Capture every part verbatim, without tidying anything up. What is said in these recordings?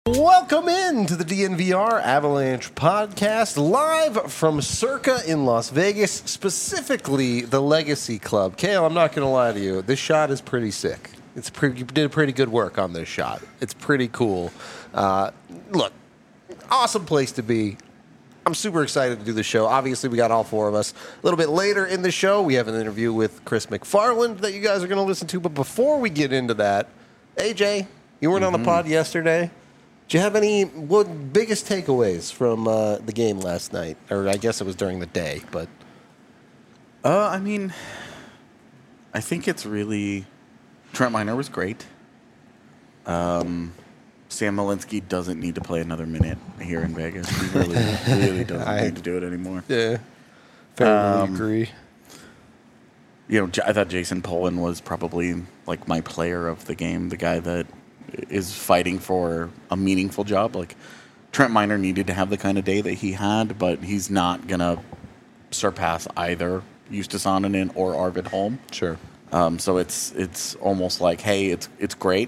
Welcome in to the D N V R Avalanche podcast, live from Circa in Las Vegas, specifically the Legacy Club. Kale, I'm not going to lie to you. This shot is pretty sick. It's pretty, you did pretty good work on this shot. It's pretty cool. Uh, look, awesome place to be. I'm super excited to do the show. Obviously, we got all four of us. A little bit later in the show, we have an interview with Chris McFarland that you guys are going to listen to. But before we get into that, A J, you weren't mm-hmm. on the pod yesterday. Do you have any what biggest takeaways from uh, the game last night? Or I guess it was during the day, but uh, I mean, I think it's really Trent Miner was great. Um, Sam Malinsky doesn't need to play another minute here in Vegas. He really, really doesn't I, need to do it anymore. Yeah, fairly um, agree. You know, I thought Jason Polan was probably like my player of the game, the guy that is fighting for a meaningful job. Like Trent Miner needed to have the kind of day that he had, but he's not gonna surpass either Justus Annunen or Arvid Holm. Sure. Um, so it's it's almost like, hey, it's it's great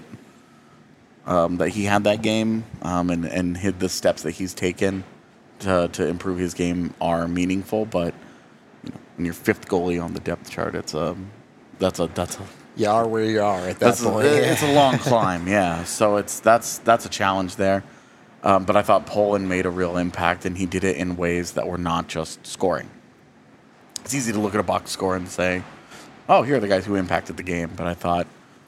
um, that he had that game, um, and and hit the steps that he's taken to to improve his game are meaningful. But you know, when you're fifth goalie on the depth chart, it's um that's a that's a You are where you are at that that's point. A, it's a long climb, yeah. So it's that's that's a challenge there. Um, but I thought Poland made a real impact, and he did it in ways that were not just scoring. It's easy to look at a box score and say, "Oh, here are the guys who impacted the game." But I thought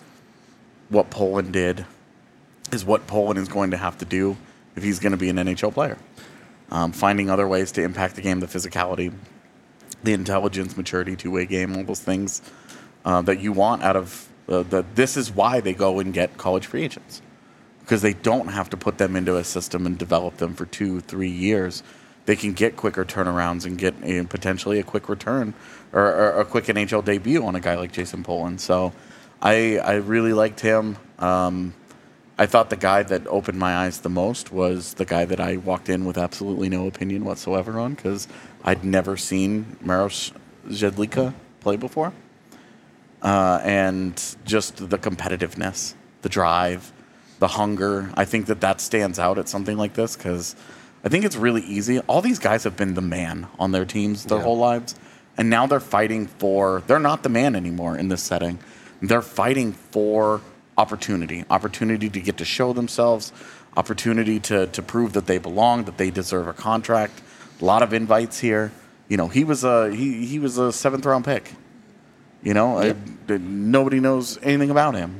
what Poland did is what Poland is going to have to do if he's going to be an N H L player. Um, finding other ways to impact the game, the physicality, the intelligence, maturity, two-way game, all those things. Uh, that you want out of uh, the. This is why they go and get college free agents, because they don't have to put them into a system and develop them for two, three years. They can get quicker turnarounds and get a, potentially a quick return or, or a quick N H L debut on a guy like Jason Polan. So, I I really liked him. Um, I thought the guy that opened my eyes the most was the guy that I walked in with absolutely no opinion whatsoever on, because I'd never seen Maros Jedlicka play before. Uh, and just the competitiveness, the drive, the hunger. I think that that stands out at something like this, because I think it's really easy. All these guys have been the man on their teams their yeah. whole lives, and now they're fighting for, they're not the man anymore in this setting. They're fighting for opportunity, opportunity to get to show themselves, opportunity to, to prove that they belong, that they deserve a contract. A lot of invites here. You know, he was a, he, he was a seventh round pick. You know, yep. I, nobody knows anything about him.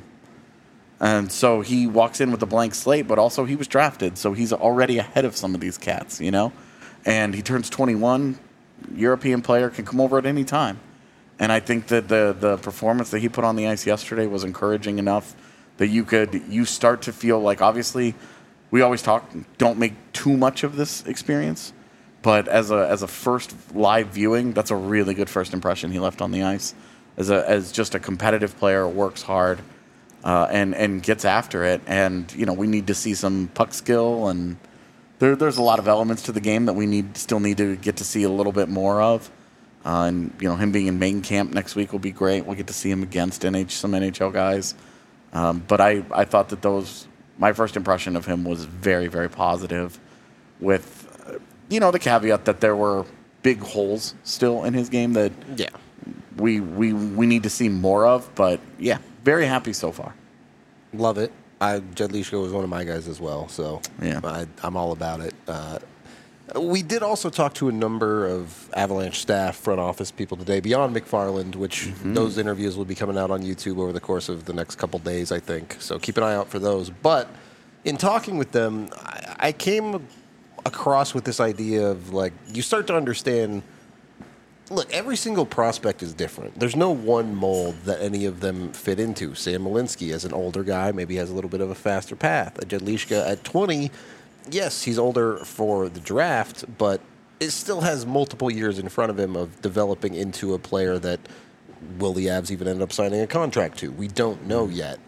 And so he walks in with a blank slate, but also he was drafted, so he's already ahead of some of these cats, you know? And he turns twenty-one, European player, can come over at any time. And I think that the, the performance that he put on the ice yesterday was encouraging enough that you could, you start to feel like, obviously, we always talk, don't make too much of this experience. But as a as a first live viewing, that's a really good first impression he left on the ice. As a as just a competitive player, works hard, uh, and and gets after it. And you know, we need to see some puck skill, and there there's a lot of elements to the game that we need still need to get to see a little bit more of. Uh, and you know, him being in main camp next week will be great. We'll get to see him against N H some N H L guys. Um, but I I thought that those my first impression of him was very very positive, with uh, you know the caveat that there were big holes still in his game that yeah. We, we we need to see more of, but yeah, very happy so far. Love it. I Jedlicka was one of my guys as well, so yeah. I, I'm all about it. Uh, we did also talk to a number of Avalanche staff, front office people today, beyond McFarland, which mm-hmm. those interviews will be coming out on YouTube over the course of the next couple days, I think. So keep an eye out for those. But in talking with them, I, I came across with this idea of, like, you start to understand. Look, every single prospect is different. There's no one mold that any of them fit into. Sam Malinsky, as an older guy, maybe has a little bit of a faster path. A Jedlicka at twenty, yes, he's older for the draft, but it still has multiple years in front of him of developing into a player that will the Avs even end up signing a contract to? We don't know yet.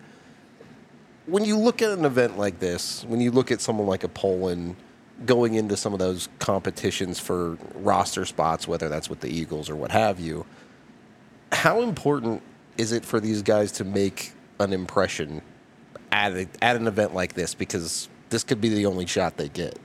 When you look at an event like this, when you look at someone like a Poland going into some of those competitions for roster spots, whether that's with the Eagles or what have you, how important is it for these guys to make an impression at, a, at an event like this? Because this could be the only shot they get.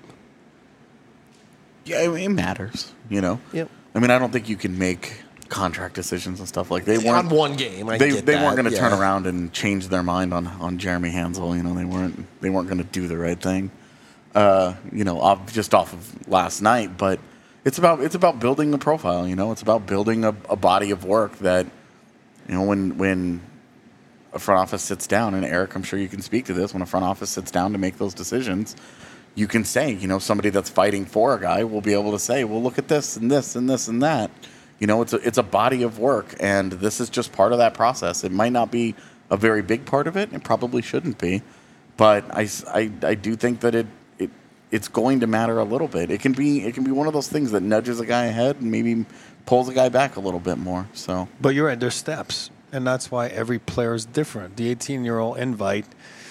Yeah, it, it matters, you know? Yep. I mean, I don't think you can make contract decisions and stuff like they weren't on one game. I they get they that, weren't going to yeah. turn around and change their mind on, on Jeremy Hansel. You know, they weren't they weren't going to do the right thing. Uh, you know, off, just off of last night, but it's about it's about building a profile. You know, it's about building a, a body of work that, you know, when when a front office sits down, and Eric, I'm sure you can speak to this, when a front office sits down to make those decisions, you can say, you know, somebody that's fighting for a guy will be able to say, well, look at this and this and this and that. You know, it's a it's a body of work, and this is just part of that process. It might not be a very big part of it. It probably shouldn't be, but I, I, I do think that it, it it's going to matter a little bit. It can be it can be one of those things that nudges a guy ahead and maybe pulls a guy back a little bit more. So, but you're right. There's steps, and that's why every player is different. The eighteen-year-old invite.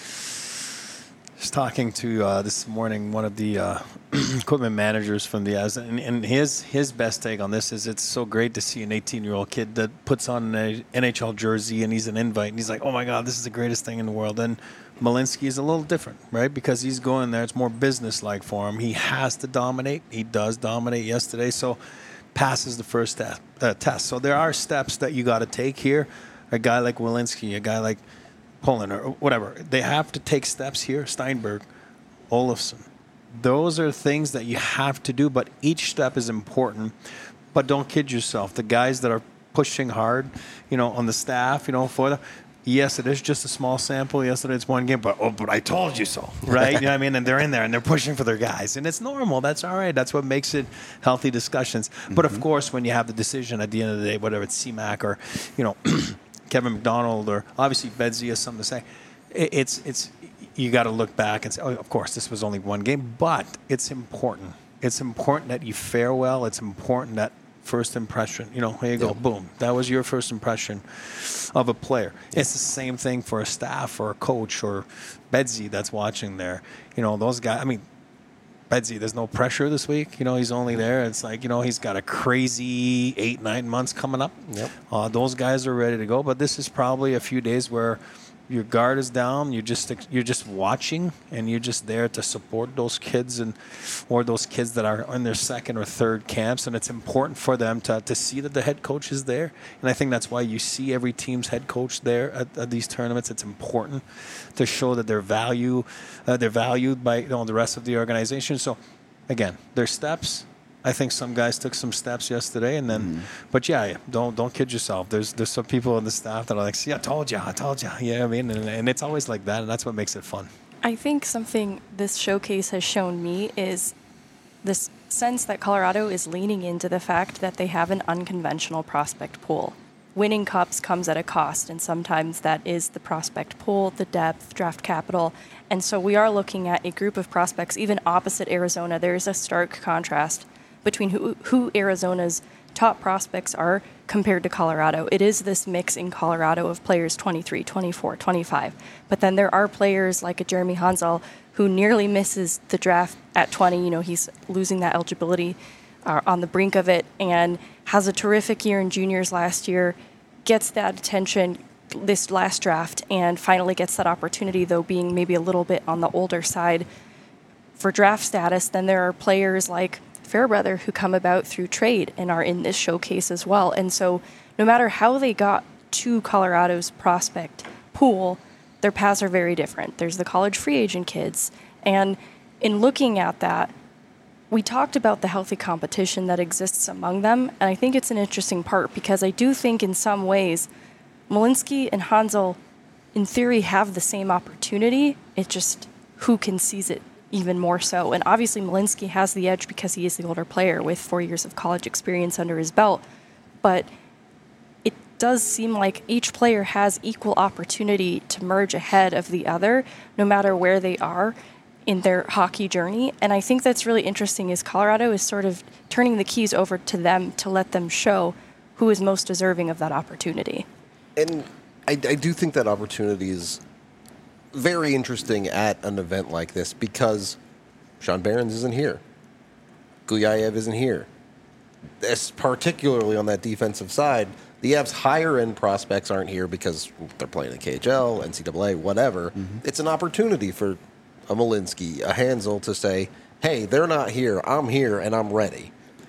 I was talking to uh, this morning one of the uh, equipment managers from the Avs, and, and his his best take on this is it's so great to see an eighteen-year-old kid that puts on an N H L jersey and he's an invite, and he's like, oh my God, this is the greatest thing in the world. And Malinsky is a little different, right? Because he's going there. It's more business-like for him. He has to dominate. He does dominate yesterday, so passes the first te- uh, test. So there are steps that you got to take here. A guy like Welinski, a guy like Poland or whatever, they have to take steps here. Steinberg, Olofsson. Those are things that you have to do, but each step is important. But don't kid yourself. The guys that are pushing hard, you know, on the staff, you know, for them, yes, it is just a small sample. Yes, it's one game, but oh, but I told you so, right? You know what I mean? And they're in there and they're pushing for their guys, and it's normal. That's all right. That's what makes it healthy discussions. Mm-hmm. But of course, when you have the decision at the end of the day, whether it's C MAC or, you know, Kevin McDonald or obviously Bedsy has something to say, it's it's you got to look back and say, oh, of course, this was only one game, but it's important. It's important that you fare well. It's important that first impression, you know, here you go, yep. Boom. That was your first impression of a player. Yep. It's the same thing for a staff or a coach or Bedsy that's watching there. You know, those guys, I mean, Bedsy, there's no pressure this week. You know, he's only there. It's like, you know, he's got a crazy eight, nine months coming up. Yep. Uh, those guys are ready to go. But this is probably a few days where your guard is down. You're just you're just watching, and you're just there to support those kids and or those kids that are in their second or third camps. And it's important for them to, to see that the head coach is there. And I think that's why you see every team's head coach there at, at these tournaments. It's important to show that they're value uh, they're valued by, you know, the rest of the organization. So again, there's steps. I think some guys took some steps yesterday, and then, mm. but yeah, yeah, don't don't kid yourself. There's there's some people on the staff that are like, see, I told you, I told you. Yeah, I mean, and, and it's always like that, and that's what makes it fun. I think something this showcase has shown me is this sense that Colorado is leaning into the fact that they have an unconventional prospect pool. Winning cups comes at a cost, and sometimes that is the prospect pool, the depth, draft capital. And so we are looking at a group of prospects, even opposite Arizona. There is a stark contrast between who, who Arizona's top prospects are compared to Colorado. It is this mix in Colorado of players twenty-three, twenty-four, twenty-five. But then there are players like a Jeremy Hansel who nearly misses the draft at twenty. You know, he's losing that eligibility uh, on the brink of it, and has a terrific year in juniors last year, gets that attention this last draft, and finally gets that opportunity, though being maybe a little bit on the older side for draft status. Then there are players like Fairbrother who come about through trade and are in this showcase as well. And so no matter how they got to Colorado's prospect pool, their paths are very different. There's the college free agent kids. And in looking at that, we talked about the healthy competition that exists among them. And I think it's an interesting part because I do think in some ways Malinsky and Hansel, in theory, have the same opportunity. It's just who can seize it even more so. And obviously Malinsky has the edge because he is the older player with four years of college experience under his belt. But it does seem like each player has equal opportunity to merge ahead of the other, no matter where they are in their hockey journey. And I think that's really interesting is Colorado is sort of turning the keys over to them to let them show who is most deserving of that opportunity. And I, I do think that opportunity is very interesting at an event like this because Sean Behrens isn't here. Guyayev isn't here. This, particularly on that defensive side, the Avs' higher-end prospects aren't here because they're playing in K H L, N C double A, whatever. Mm-hmm. It's an opportunity for a Malinsky, a Hansel to say, hey, they're not here. I'm here, and I'm ready.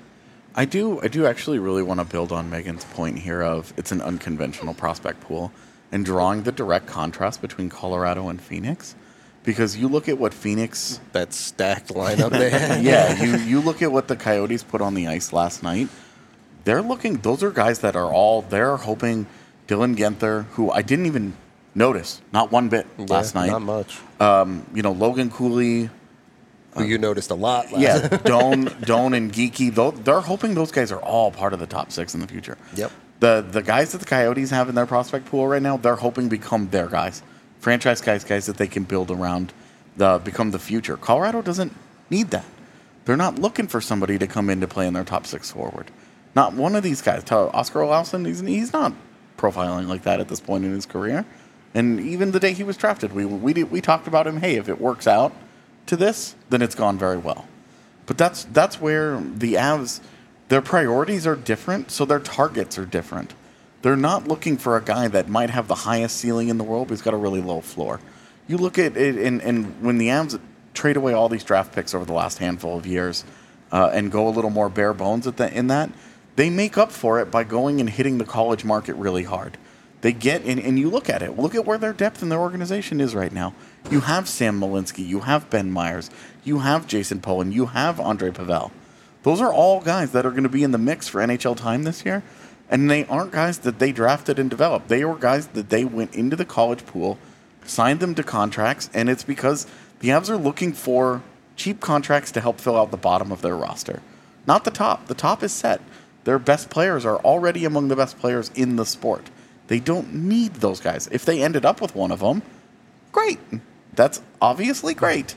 I do I do actually really want to build on Megan's point here of it's an unconventional prospect pool and drawing the direct contrast between Colorado and Phoenix. Because you look at what Phoenix... That stacked lineup they had. yeah, you, you look at what the Coyotes put on the ice last night. They're looking... Those are guys that are all... They're hoping Dylan Genther, who I didn't even notice, not one bit last yeah, night. Not much. Um, you know, Logan Cooley... Who you noticed a lot last Yeah, Doan, Doan and Geeky, they're hoping those guys are all part of the top six in the future. Yep. The the guys that the Coyotes have in their prospect pool right now, they're hoping become their guys. Franchise guys, guys that they can build around, the become the future. Colorado doesn't need that. They're not looking for somebody to come in to play in their top six forward. Not one of these guys. Oscar Olausson, he's, he's not profiling like that at this point in his career. And even the day he was drafted, we we did, we talked about him, hey, if it works out to this, then it's gone very well. But that's that's where the Avs, their priorities are different, so their targets are different. They're not looking for a guy that might have the highest ceiling in the world, but he's got a really low floor. You look at it, and, and when the Avs trade away all these draft picks over the last handful of years uh, and go a little more bare bones at the, in that, they make up for it by going and hitting the college market really hard. They get in, and you look at it. Look at where their depth in their organization is right now. You have Sam Malinsky. You have Ben Myers. You have Jason Poland. You have Andre Pavel. Those are all guys that are going to be in the mix for N H L time this year. And they aren't guys that they drafted and developed. They were guys that they went into the college pool, signed them to contracts, and it's because the Avs are looking for cheap contracts to help fill out the bottom of their roster. Not the top. The top is set. Their best players are already among the best players in the sport. They don't need those guys. If they ended up with one of them, great. That's obviously great.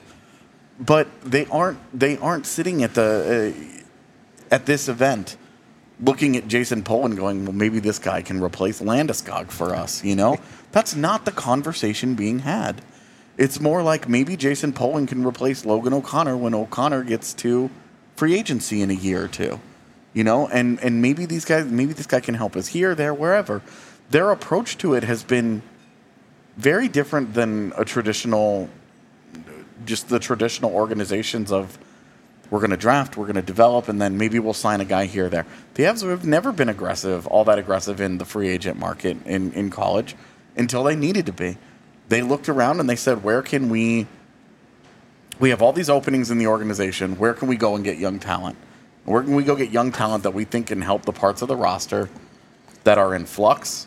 But they aren't they aren't sitting at the uh, at this event looking at Jason Poland going, well, maybe this guy can replace Landeskog for us, you know? That's not the conversation being had. It's more like maybe Jason Poland can replace Logan O'Connor when O'Connor gets to free agency in a year or two. You know, and, and maybe these guys maybe this guy can help us here, there, wherever. Their approach to it has been very different than a traditional, just the traditional organizations of we're going to draft, we're going to develop, and then maybe we'll sign a guy here or there. The Avs have never been aggressive, all that aggressive in the free agent market in, in college until they needed to be. They looked around and they said, where can we, we have all these openings in the organization, where can we go and get young talent? Where can we go get young talent that we think can help the parts of the roster that are in flux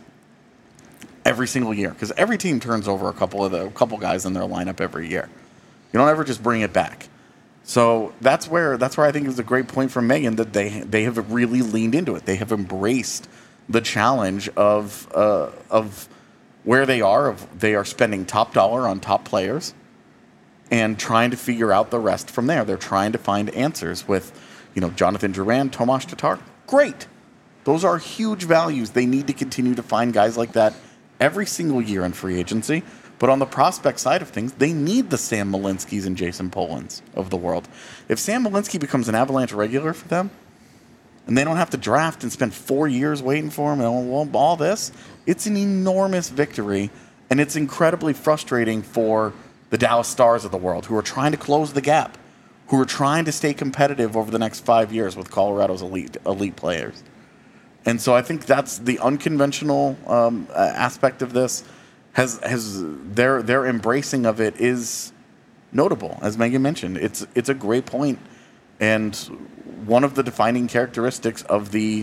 every single year? Because every team turns over a couple of the a couple guys in their lineup every year. You don't ever just bring it back. So that's where that's where I think it was a great point from Megan that they they have really leaned into it. They have embraced the challenge of uh, of where they are. Of they are spending top dollar on top players and trying to figure out the rest from there. They're trying to find answers with, you know, Jonathan Drouin, Tomas Tatar. Great. Those are huge values. They need to continue to find guys like that every single year in free agency. But on the prospect side of things, they need the Sam Malinskys and Jason Polands of the world. If Sam Malinsky becomes an Avalanche regular for them, and they don't have to draft and spend four years waiting for him and all this, it's an enormous victory. And it's incredibly frustrating for the Dallas Stars of the world who are trying to close the gap, who are trying to stay competitive over the next five years with Colorado's elite elite players. And so I think that's the unconventional um, aspect of this. Has has their their embracing of it is notable, as Megan mentioned. It's it's a great point, and one of the defining characteristics of the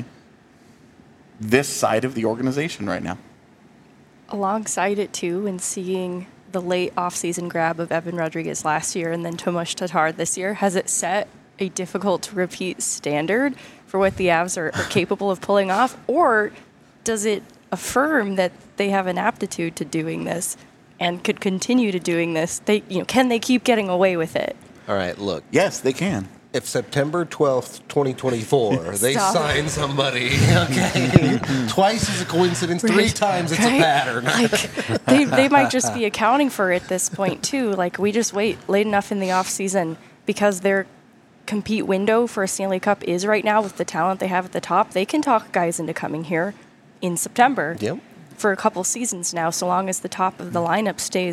this side of the organization right now. Alongside it too, and seeing the late offseason grab of Evan Rodriguez last year and then Tomas Tatar this year, has it set a difficult to repeat standard for what the Avs are, are capable of pulling off, or does it affirm that they have an aptitude to doing this and could continue to doing this? They, you know, can they keep getting away with it? All right, look. Yes, they can. If September twelfth, twenty twenty-four, they Stop. sign somebody, okay, twice is a coincidence, three Right, times it's right? a pattern. Like, they, they might just be accounting for it at this point, too. Like, we just wait late enough in the offseason because their compete window for a Stanley Cup is right now with the talent they have at the top. They can talk guys into coming here in September Yep. for a couple seasons now, so long as the top of the lineup stays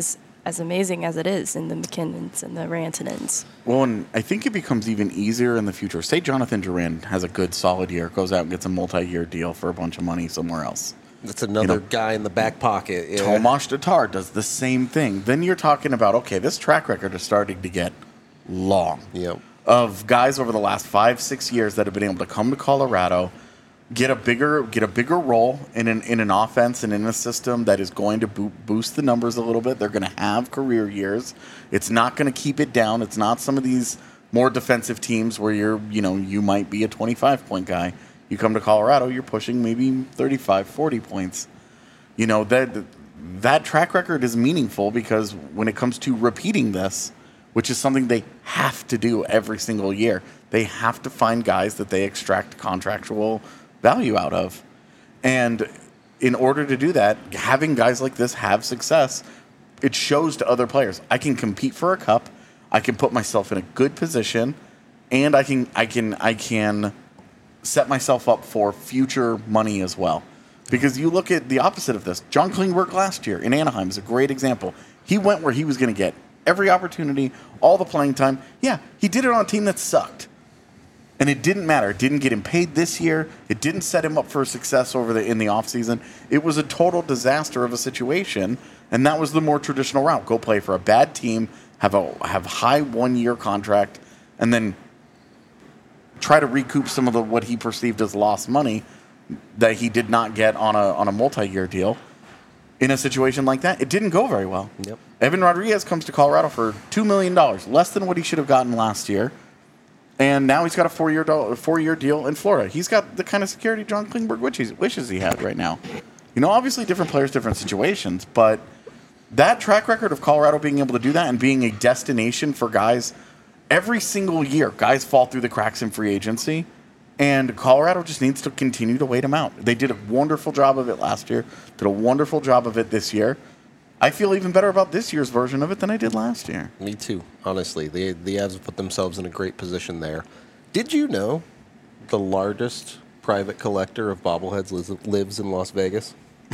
as amazing as it is in the McKinnons and the Rantanens. Well, and I think it becomes even easier in the future. Say Jonathan Duran has a good, solid year, goes out and gets a multi-year deal for a bunch of money somewhere else. That's another You know, guy in the back pocket. Yeah. Tomas Tatar does the same thing. Then you're talking about, okay, this track record is starting to get long. Yep. Of guys over the last five, six years that have been able to come to Colorado, get a bigger get a bigger role in an in an offense and in a system that is going to bo- boost the numbers a little bit. They're going to have career years. It's not going to keep it down. It's not some of these more defensive teams where you're, you know, you might be a twenty-five point guy. You come to Colorado, you're pushing maybe thirty-five, forty points. You know, that that track record is meaningful because when it comes to repeating this, which is something they have to do every single year, they have to find guys that they extract contractual value out of. And in order to do that, having guys like this have success, it shows to other players, I can compete for a cup, I can put myself in a good position, and I can I can I can set myself up for future money as well. Because you look at the opposite of this. John Klingberg last year in Anaheim is a great example. He went where he was going to get every opportunity, all the playing time. Yeah, he did it on a team that sucked. And it didn't matter. It didn't get him paid this year. It didn't set him up for success over the in the offseason. It was a total disaster of a situation, and that was the more traditional route. Go play for a bad team, have a have high one-year contract, and then try to recoup some of the what he perceived as lost money that he did not get on a on a multi-year deal. In a situation like that, it didn't go very well. Yep. Evan Rodriguez comes to Colorado for two million dollars, less than what he should have gotten last year. And now he's got a four-year do- four-year deal in Florida. He's got the kind of security John Klingberg wishes, wishes he had right now. You know, obviously different players, different situations, but that track record of Colorado being able to do that and being a destination for guys every single year, guys fall through the cracks in free agency, and Colorado just needs to continue to wait them out. They did a wonderful job of it last year, did a wonderful job of it this year. I feel even better about this year's version of it than I did last year. Me too, honestly. The, the Avs have put themselves in a great position there. Did you know the largest private collector of bobbleheads lives, lives in Las Vegas?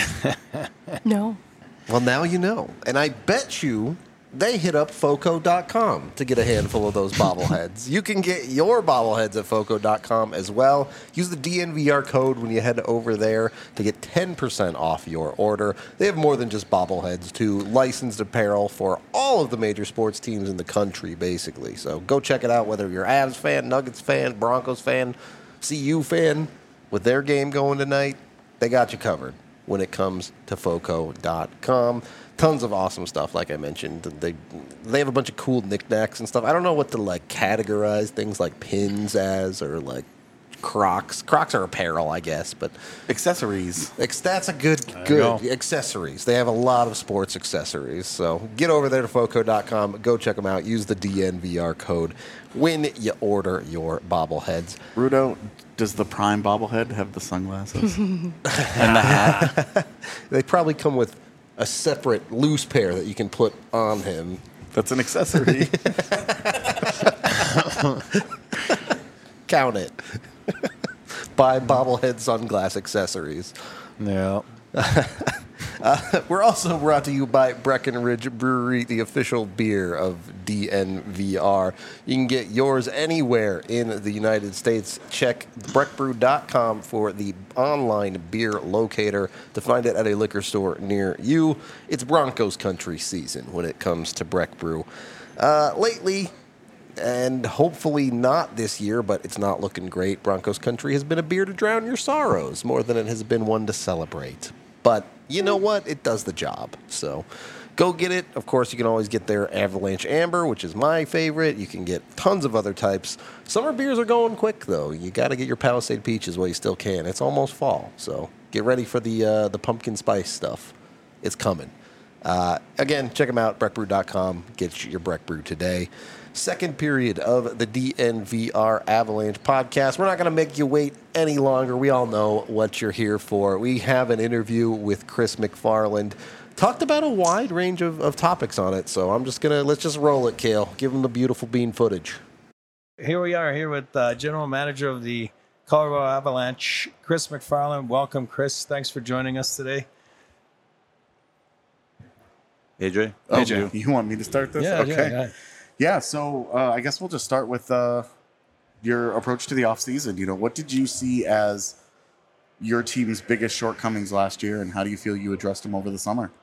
No. Well, now you know. And I bet you they hit up Foco dot com to get a handful of those bobbleheads. You can get your bobbleheads at Foco dot com as well. Use the D N V R code when you head over there to get ten percent off your order. They have more than just bobbleheads, too. Licensed apparel for all of the major sports teams in the country, basically. So go check it out, whether you're Avs fan, Nuggets fan, Broncos fan, C U fan. With their game going tonight, they got you covered when it comes to Foco dot com. Tons of awesome stuff, like I mentioned. They they have a bunch of cool knickknacks and stuff. I don't know what to like categorize things like pins as or like Crocs. Crocs are apparel, I guess, but Accessories. ex- that's a good you good go. accessories. They have a lot of sports accessories. So get over there to Foco dot com. Go check them out. Use the D N V R code when you order your bobbleheads. Rudo, does the Prime bobblehead have the sunglasses and the hat? They probably come with a separate loose pair that you can put on him. That's an accessory. Count it. Buy bobblehead sunglass accessories. Yeah. Uh, we're also brought to you by Breckenridge Brewery, the official beer of D N V R. You can get yours anywhere in the United States. Check breck brew dot com for the online beer locator to find it at a liquor store near you. It's Broncos country season when it comes to Breck Brew. Uh, lately, and hopefully not this year, but it's not looking great, Broncos country has been a beer to drown your sorrows more than it has been one to celebrate. But you know what? It does the job. So go get it. Of course, you can always get their Avalanche Amber, which is my favorite. You can get tons of other types. Summer beers are going quick, though. You got to get your Palisade Peaches while you still can. It's almost fall, so get ready for the uh, the pumpkin spice stuff. It's coming. Uh, again, check them out, breck brew dot com. Get your Breck Brew today. Second period of the D N V R Avalanche podcast. We're not going to make you wait any longer. We all know what you're here for. We have an interview with Chris McFarland. Talked about a wide range of, of topics on it, so I'm just going to, let's just roll it, Kale. Give him the beautiful bean footage. Here we are, here with uh, General Manager of the Colorado Avalanche, Chris McFarland. Welcome, Chris. Thanks for joining us today. A J? A J. Oh, you want me to start this? Yeah, okay. yeah, yeah. Yeah, so uh, I guess we'll just start with uh, your approach to the offseason. You know, what did you see as your team's biggest shortcomings last year, and how do you feel you addressed them over the summer?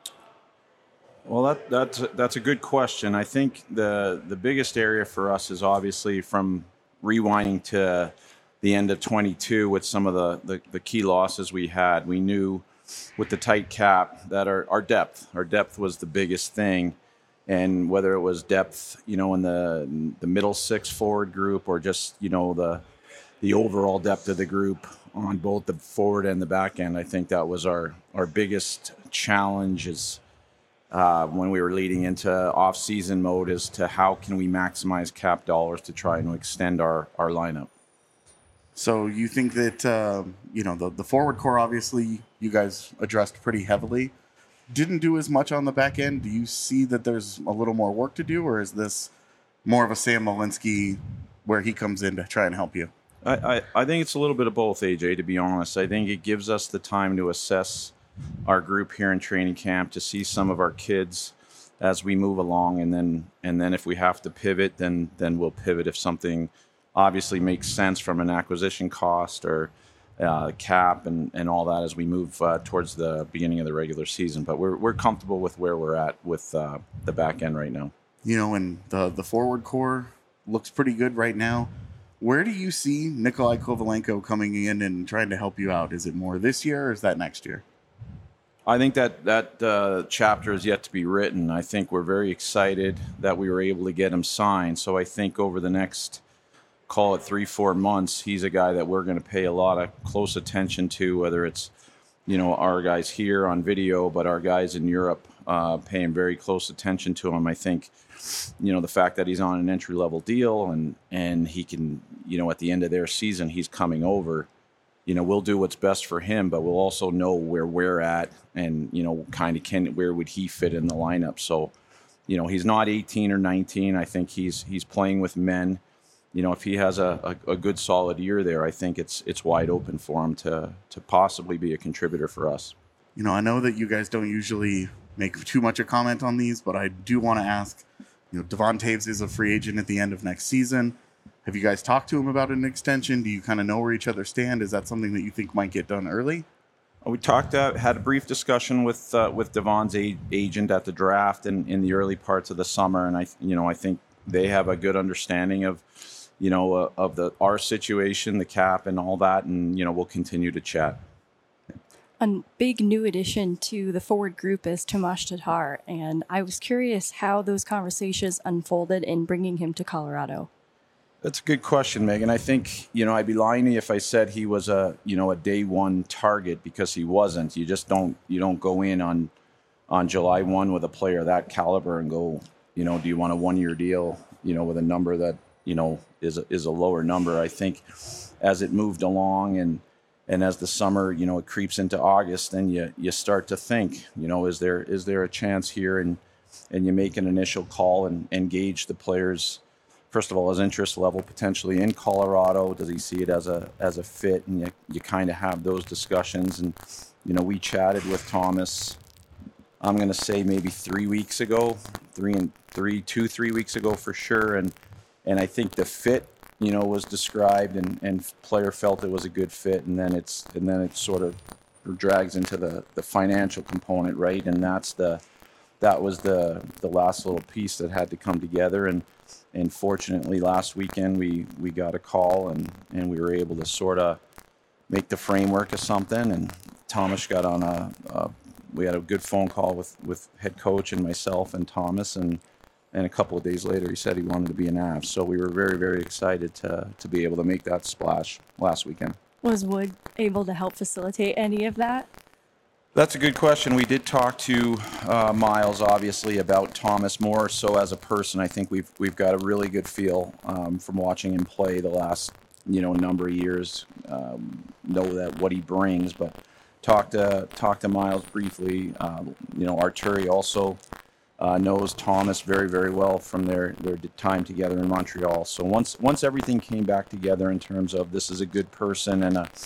Well, that, that's that's a good question. I think the the biggest area for us is obviously from rewinding to the end of twenty-two with some of the, the, the key losses we had. We knew with the tight cap that our, our depth, our depth was the biggest thing. And whether it was depth, you know, in the the middle six forward group or just, you know, the the overall depth of the group on both the forward and the back end, I think that was our, our biggest challenge is uh, when we were leading into off-season mode as to how can we maximize cap dollars to try and extend our, our lineup. So you think that, uh, you know, the, the forward core, obviously, you guys addressed pretty heavily. Didn't do as much on the back end. Do you see that there's a little more work to do, or is this more of a Sam Malinsky where he comes in to try and help you? I, I, I think it's a little bit of both, A J, to be honest. I think it gives us the time to assess our group here in training camp, to see some of our kids as we move along, and then and then if we have to pivot, then then we'll pivot if something obviously makes sense from an acquisition cost or uh, cap and, and all that as we move uh, towards the beginning of the regular season. But we're we're comfortable with where we're at with uh, the back end right now. You know, and the the forward core looks pretty good right now. Where do you see Nikolai Kovalenko coming in and trying to help you out? Is it more this year or is that next year? I think that that uh, chapter is yet to be written. I think we're very excited that we were able to get him signed. So I think over the next, call it three, four months, he's a guy that we're going to pay a lot of close attention to, whether it's, you know, our guys here on video, but our guys in Europe uh, paying very close attention to him. I think, you know, the fact that he's on an entry-level deal and, and he can, you know, at the end of their season, he's coming over. You know, we'll do what's best for him, but we'll also know where we're at and, you know, kind of can, where would he fit in the lineup. So, you know, he's not eighteen or nineteen. I think he's he's playing with men. You know, if he has a, a, a good solid year there, I think it's it's wide open for him to to possibly be a contributor for us. You know, I know that you guys don't usually make too much a comment on these, but I do want to ask, you know, Devon Toews is a free agent at the end of next season. Have you guys talked to him about an extension? Do you kind of know where each other stand? Is that something that you think might get done early? We talked, uh, had a brief discussion with uh, with Devon's a- agent at the draft and in the early parts of the summer, and I, you know, I think they have a good understanding of, you know, uh, of the our situation, the cap, and all that, and you know, we'll continue to chat. A big new addition to the forward group is Tomas Tatar, and I was curious how those conversations unfolded in bringing him to Colorado. That's a good question, Megan. I think, you know, I'd be lying to you if I said he was a, you know, a day one target, because he wasn't. You just don't, you don't go in on, on July first with a player of that caliber and go, you know, do you want a one-year deal, you know, with a number that, you know, is a, is a lower number. I think as it moved along and, and as the summer, you know, it creeps into August, then you, you start to think, you know, is there, is there a chance here? And, and you make an initial call and, and gauge the player's, first of all, his interest level potentially in Colorado. Does he see it as a as a fit? And you, you kind of have those discussions. And, you know, we chatted with Thomas, I'm going to say maybe three weeks ago, three and three, two, three weeks ago for sure. And and I think the fit, you know, was described and, and player felt it was a good fit. And then it's and then it sort of drags into the, the financial component, right? And that's the that was the the last little piece that had to come together. And And fortunately, last weekend we, we got a call and, and we were able to sort of make the framework of something. And Thomas got on a, a we had a good phone call with, with head coach and myself and Thomas. And, and a couple of days later, he said he wanted to be an A V. So we were very, very excited to to be able to make that splash last weekend. Was Wood able to help facilitate any of that? That's a good question. We did talk to uh, Miles, obviously, about Thomas more so as a person. I think we've we've got a really good feel um, from watching him play the last you know number of years. Um, know that what he brings, but talked to talked to Miles briefly. Uh, you know, Arturi also uh, knows Thomas very very well from their their time together in Montreal. So once once everything came back together in terms of this is a good person and a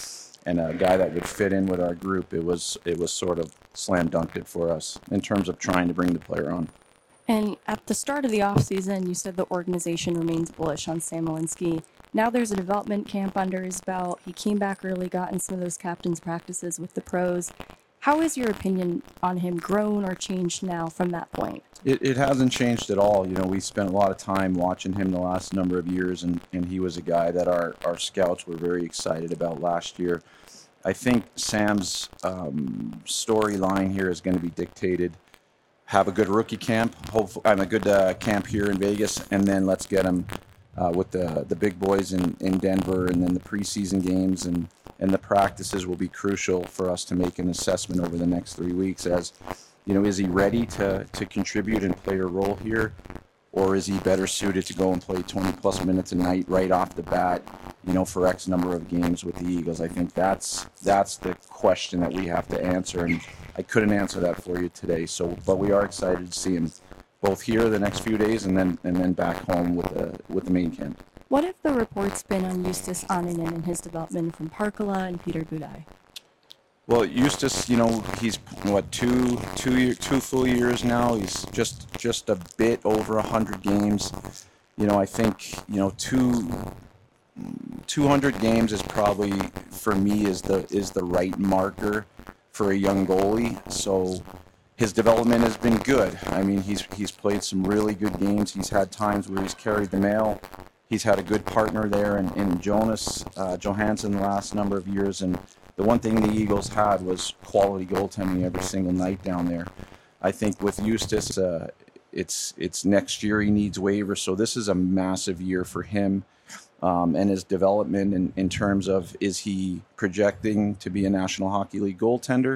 and a guy that would fit in with our group, it was it was sort of slam dunked it for us in terms of trying to bring the player on. And at the start of the offseason, you said the organization remains bullish on Sam Malinsky. Now there's a development camp under his belt. He came back early, got in some of those captain's practices with the pros. How has your opinion on him grown or changed now from that point? It, it hasn't changed at all. You know, we spent a lot of time watching him the last number of years, and, and he was a guy that our, our scouts were very excited about last year. I think Sam's um, storyline here is going to be dictated. Have a good rookie camp, hopefully, I'm a good uh, camp here in Vegas, and then let's get him uh, with the the big boys in, in Denver, and then the preseason games and, and the practices will be crucial for us to make an assessment over the next three weeks. As you know, is he ready to to contribute and play a role here, or is he better suited to go and play twenty plus minutes a night right off the bat, you know, for X number of games with the Eagles? I think that's that's the question that we have to answer, and I couldn't answer that for you today. So, but we are excited to see him both here the next few days, and then and then back home with the with the main camp. What have the reports been on Justus Annunen and his development from Parkala and Peter Budaj? Well, Justus, you know, he's what two two year, two full years now. He's just just a bit over a hundred games. You know, I think you know two. two hundred games is probably for me is the is the right marker for a young goalie. So his development has been good. I mean, he's he's played some really good games. He's had times where he's carried the mail. He's had a good partner there in, in Jonas uh, Johansson the last number of years. And the one thing the Eagles had was quality goaltending every single night down there. I think with Justus, uh, it's it's next year he needs waivers. So this is a massive year for him. Um, and his development in, in terms of, is he projecting to be a National Hockey League goaltender?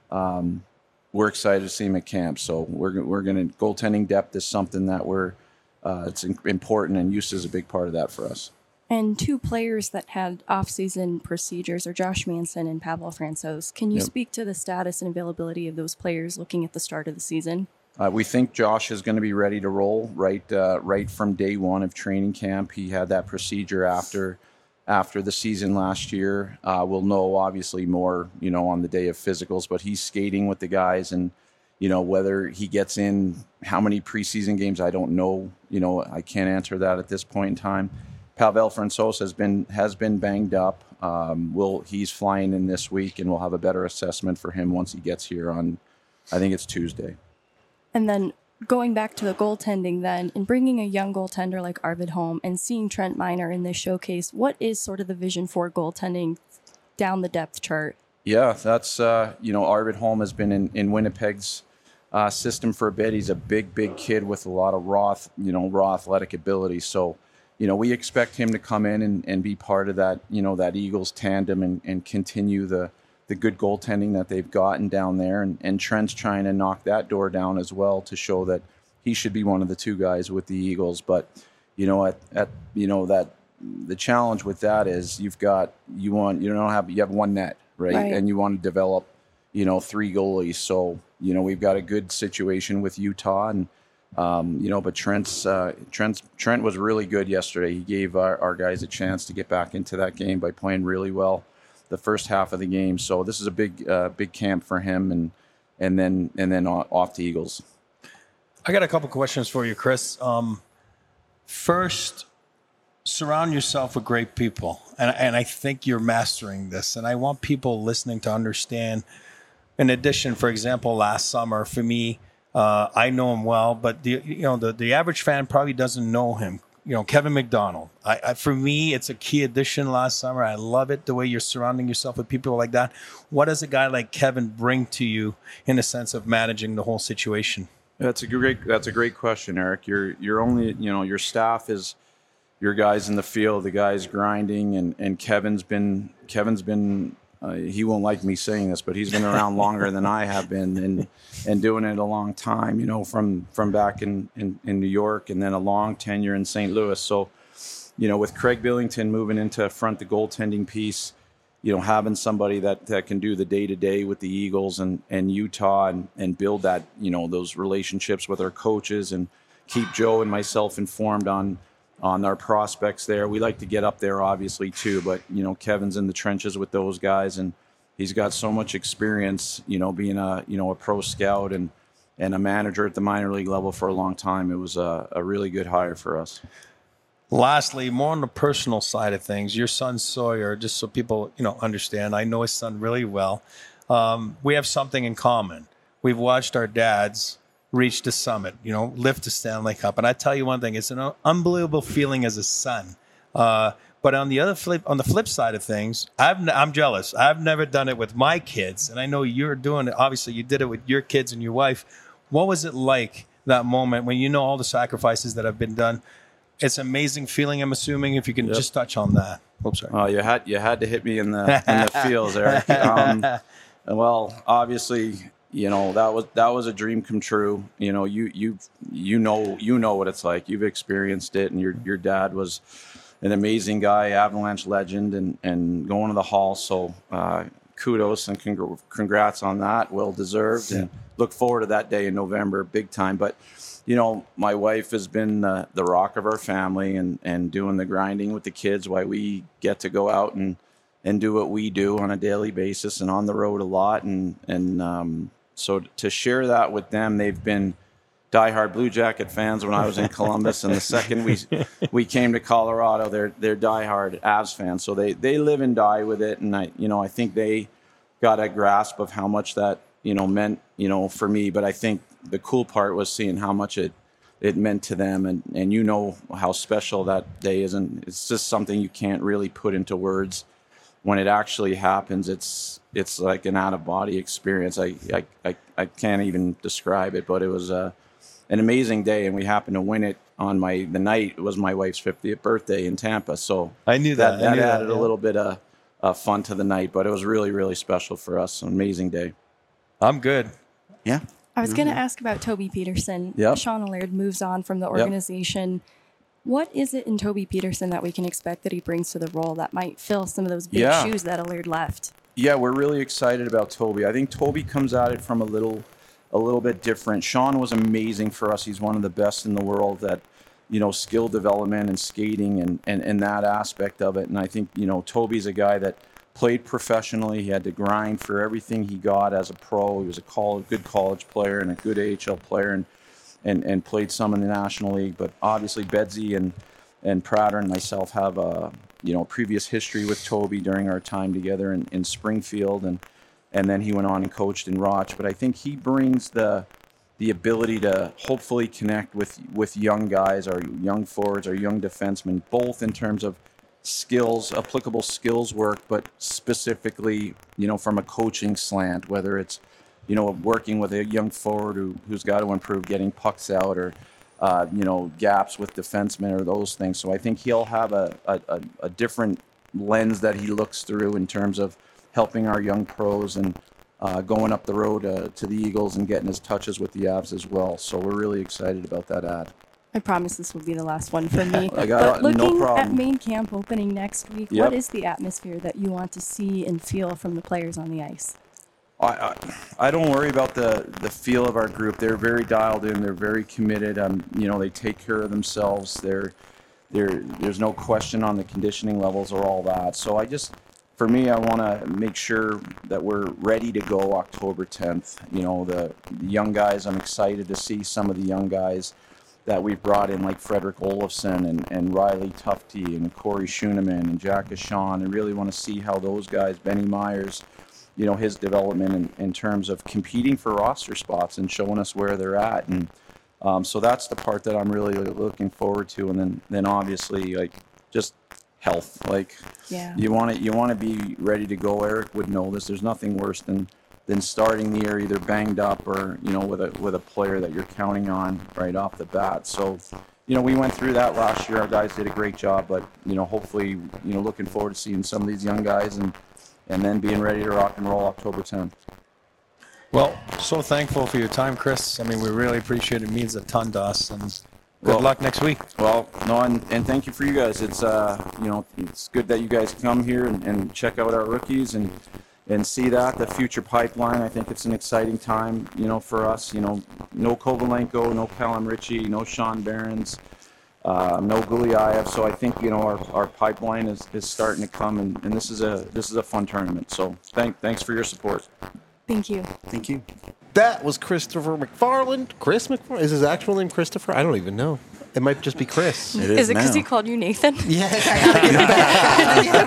Um, we're excited to see him at camp. So we're we're going to goaltending depth is something that we're uh, it's important, and use is a big part of that for us. And two players that had off-season procedures are Josh Manson and Pavel Francouz. Can you Yep. speak to the status and availability of those players looking at the start of the season? Uh, we think Josh is going to be ready to roll right uh, right from day one of training camp. He had that procedure after after the season last year. Uh, we'll know obviously more, you know, on the day of physicals, but he's skating with the guys, and you know whether he gets in how many preseason games, I don't know. You know, I can't answer that at this point in time. Pavel Francouz has been has been banged up. Um, we'll he's flying in this week, and we'll have a better assessment for him once he gets here on, I think it's Tuesday. And then going back to the goaltending then, in bringing a young goaltender like Arvid Holm and seeing Trent Miner in this showcase, what is sort of the vision for goaltending down the depth chart? Yeah, that's, uh, you know, Arvid Holm has been in, in Winnipeg's uh, system for a bit. He's a big, big kid with a lot of raw, you know, raw athletic ability. So, you know, we expect him to come in and, and be part of that, you know, that Eagles tandem and, and continue the, the good goaltending that they've gotten down there. And, and Trent's trying to knock that door down as well to show that he should be one of the two guys with the Eagles. But, you know, at, at you know, that the challenge with that is you've got, you want, you don't have, you have one net, right? Right. And you want to develop, you know, three goalies. So, you know, we've got a good situation with Utah, and, um, you know, but Trent's, uh, Trent's, Trent was really good yesterday. He gave our, our guys a chance to get back into that game by playing really well the first half of the game. So this is a big, uh, big camp for him, and and then and then off to Eagles. I got a couple questions for you, Chris. Um, first, surround yourself with great people, and and I think you're mastering this. And I want people listening to understand. In addition, for example, last summer for me, uh, I know him well, but the you know the the average fan probably doesn't know him. You know, Kevin McDonald. I, I, for me, it's a key addition last summer. I love it, the way you're surrounding yourself with people like that. What does a guy like Kevin bring to you in the sense of managing the whole situation? That's a great. That's a great question, Eric. You're you're only you know your staff is your guys in the field, the guys grinding, and, and Kevin's been Kevin's been. Uh, he won't like me saying this, but he's been around longer than I have been, and and doing it a long time, you know, from from back in, in, in New York, and then a long tenure in Saint Louis. So, you know, with Craig Billington moving into front the goaltending piece, you know, having somebody that, that can do the day-to-day with the Eagles and, and Utah and, and build that, you know, those relationships with our coaches and keep Joe and myself informed on on our prospects there. We like to get up there, obviously, too. But, you know, Kevin's in the trenches with those guys, and he's got so much experience, you know, being a, you know, a pro scout and, and a manager at the minor league level for a long time. It was a, a really good hire for us. Lastly, more on the personal side of things, your son Sawyer, just so people, you know, understand, I know his son really well. Um, we have something in common. We've watched our dads reach the summit, you know, lift the Stanley Cup. And I tell you one thing, it's an unbelievable feeling as a son. Uh, but on the other flip, on the flip side of things, I've, I'm jealous. I've never done it with my kids. And I know you're doing it. Obviously, you did it with your kids and your wife. What was it like, that moment, when you know all the sacrifices that have been done? It's an amazing feeling, I'm assuming, if you can yep. just touch on that. Oh, sorry. Oh, you had you had to hit me in the in the feels, Eric. Um, well, obviously, you know, that was that was a dream come true. You know, you you you know you know what it's like. You've experienced it, and your your dad was an amazing guy, Avalanche legend, and and going to the Hall. So uh, kudos and congr- congrats on that. Well deserved, yeah. And look forward to that day in November, big time. But you know, my wife has been the, the rock of our family, and, and doing the grinding with the kids while we get to go out and, and do what we do on a daily basis and on the road a lot. And, and um, so to share that with them, they've been diehard Blue Jacket fans when I was in Columbus. And the second we we came to Colorado, they're they're diehard Avs fans. So they, they live and die with it. And I, you know, I think they got a grasp of how much that, you know, meant, you know, for me. But I think the cool part was seeing how much it, it meant to them. And, and you know how special that day is. And it's just something you can't really put into words. When it actually happens, it's it's like an out-of-body experience. I, I, I, I can't even describe it, but it was uh, an amazing day. And we happened to win it on my, the night, it was my wife's fiftieth birthday in Tampa. So I knew that. That, that knew added that, yeah. a little bit of uh, fun to the night, but it was really, really special for us. An amazing day. I'm good. Yeah. I was Mm-hmm. going to ask about Toby Peterson. Yep. Sean Allard moves on from the organization. Yep. What is it in Toby Peterson that we can expect that he brings to the role that might fill some of those big yeah. shoes that Allard left? Yeah, we're really excited about Toby. I think Toby comes at it from a little a little bit different. Sean was amazing for us. He's one of the best in the world at, you know, skill development and skating and, and, and that aspect of it. And I think, you know, Toby's a guy that played professionally. He had to grind for everything he got as a pro. He was a college, good college player and a good A H L player, and and, and played some in the National League. But obviously Bedsy and, and Prater and myself have a, you know, previous history with Toby during our time together in, in Springfield. And, and then he went on and coached in Roch. But I think he brings the the ability to hopefully connect with, with young guys, our young forwards, our young defensemen, both in terms of skills, applicable skills work, but specifically, you know, from a coaching slant, whether it's, you know, working with a young forward who, who's got to improve getting pucks out, or, uh, you know, gaps with defensemen or those things. So I think he'll have a, a, a different lens that he looks through in terms of helping our young pros and uh, going up the road uh, to the Eagles and getting his touches with the Avs as well. So we're really excited about that ad. I promise this will be the last one for me. I got but looking no problem. at main camp opening next week, Yep. what is the atmosphere that you want to see and feel from the players on the ice? I, I, I don't worry about the, the feel of our group. They're very dialed in. They're very committed. Um, you know, they take care of themselves. They're, they're, there's no question on the conditioning levels or all that. So I just, for me, I want to make sure that we're ready to go October tenth. You know, the, the young guys, I'm excited to see some of the young guys that we've brought in, like Frederick Olofsson and, and Riley Tufte and Corey Schooneman and Jack Ashawn. I really want to see how those guys, Benny Myers, you know, his development in, in terms of competing for roster spots and showing us where they're at. And um, so that's the part that I'm really looking forward to. And then, then obviously, like, just health. Like, yeah. you want to you want to be ready to go. Eric would know this. There's nothing worse than than starting the year either banged up or, you know, with a with a player that you're counting on right off the bat. So, you know, we went through that last year. Our guys did a great job, but, you know, hopefully, you know, looking forward to seeing some of these young guys and and then being ready to rock and roll October tenth. Well, so thankful for your time, Chris. I mean, we really appreciate it. It means a ton to us. And good Well, luck next week. Well, no, and, and thank you for you guys. It's uh, you know, it's good that you guys come here and, and check out our rookies and and see that the future pipeline. I think it's an exciting time, you know, for us. You know, no Kovalenko, no Callum Ritchie, no Sean Behrens. Uh, no Gulyayev, so I think you know our, our pipeline is, is starting to come, and, and this is a this is a fun tournament. So thank thanks for your support. Thank you. Thank you. That was Christopher McFarland. Chris McFarland? Is his actual name Christopher? I don't even know. It might just be Chris. It Is is it because now. he called you Nathan? Yeah, I gotta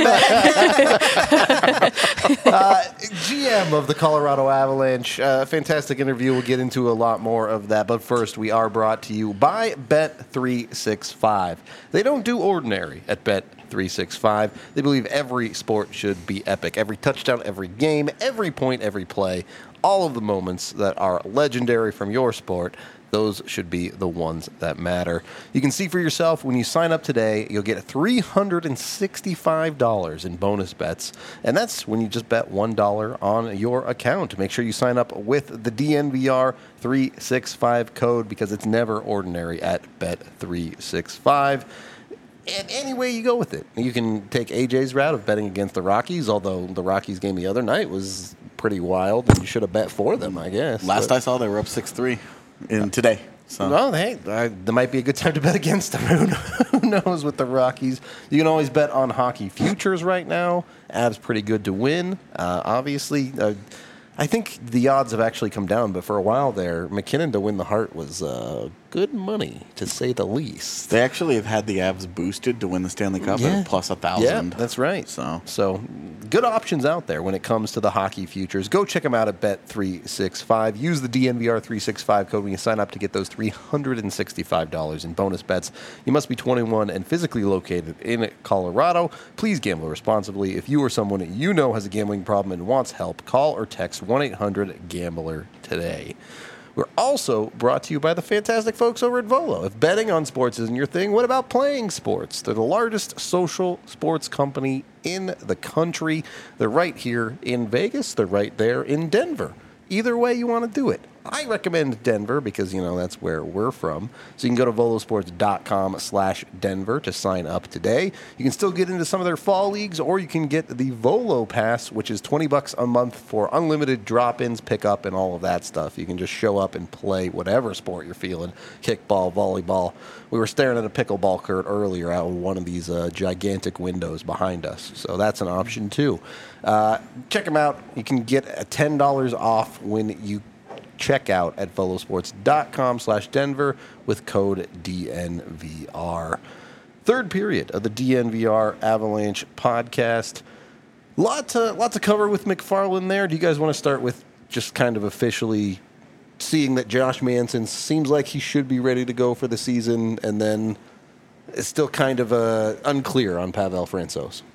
get it back. uh, G M of the Colorado Avalanche. Uh, fantastic interview. We'll get into a lot more of that. But first, we are brought to you by Bet three sixty-five. They don't do ordinary at Bet three sixty-five. They believe every sport should be epic. Every touchdown, every game, every point, every play. All of the moments that are legendary from your sport, those should be the ones that matter. You can see for yourself when you sign up today, you'll get three hundred sixty-five dollars in bonus bets. And that's when you just bet one dollar on your account. Make sure you sign up with the D N V R three sixty-five code because it's never ordinary at Bet three sixty-five. And any way you go with it. You can take A J's route of betting against the Rockies, although the Rockies game the other night was pretty wild, and you should have bet for them, I guess. Last But- I saw, they were up six three in today. So Well, hey, I, there might be a good time to bet against them. Who Who knows with the Rockies? You can always bet on hockey futures right now. Avs pretty good to win. Uh, obviously, uh, I think the odds have actually come down, but for a while there, McKinnon to win the Hart was uh, good money, to say the least. they actually have had the Avs boosted to win the Stanley Cup at plus a Yeah, thousand. that's right. So so good options out there when it comes to the hockey futures. Go check them out at Bet three sixty-five. Use the D N V R three sixty-five code when you sign up to get those three hundred sixty-five dollars in bonus bets. You must be twenty-one and physically located in Colorado. Please gamble responsibly. If you or someone that you know has a gambling problem and wants help, call or text one eight hundred gambler today. We're also brought to you by the fantastic folks over at Volo. If betting on sports isn't your thing, what about playing sports? They're the largest social sports company in the country. They're right here in Vegas. They're right there in Denver. Either way you want to do it. I recommend Denver because, you know, that's where we're from. So you can go to volosports.com slash Denver to sign up today. You can still get into some of their fall leagues, or you can get the Volo Pass, which is twenty bucks a month for unlimited drop-ins, pickup, and all of that stuff. You can just show up and play whatever sport you're feeling, kickball, volleyball. We were staring at a pickleball court earlier out of one of these uh, gigantic windows behind us. So that's an option, too. Uh, check them out. You can get ten dollars off when you check out at volosports.com slash Denver with code D N V R. Third period of the D N V R Avalanche podcast. Lot to, lot to cover with McFarland there. Do you guys want to start with just kind of officially seeing that Josh Manson seems like he should be ready to go for the season, and then it's still kind of uh, unclear on Pavel Francouz?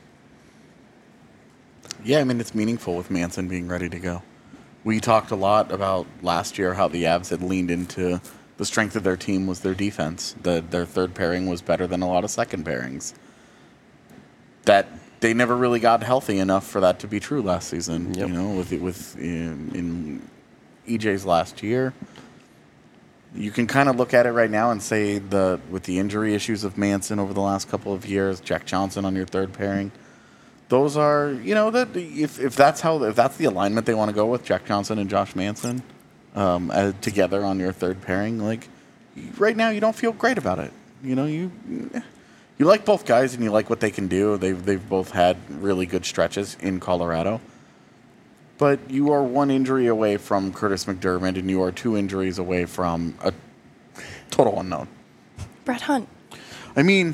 yeah, I mean it's meaningful with Manson being ready to go. We talked a lot about last year how the Avs had leaned into the strength of their team was their defense. The, their third pairing was better than a lot of second pairings. That they never really got healthy enough for that to be true last season. Yep. You know, with with in, in E J's last year, you can kind of look at it right now and say the with the injury issues of Manson over the last couple of years, Jack Johnson on your third pairing. Those are, you know, that if, if that's how if that's the alignment they want to go with, Jack Johnson and Josh Manson um, uh, together on your third pairing, like right now you don't feel great about it. You know, you you like both guys and you like what they can do. They've they've both had really good stretches in Colorado, but you are one injury away from Curtis McDermott, and you are two injuries away from a total unknown. Brett Hunt. I mean.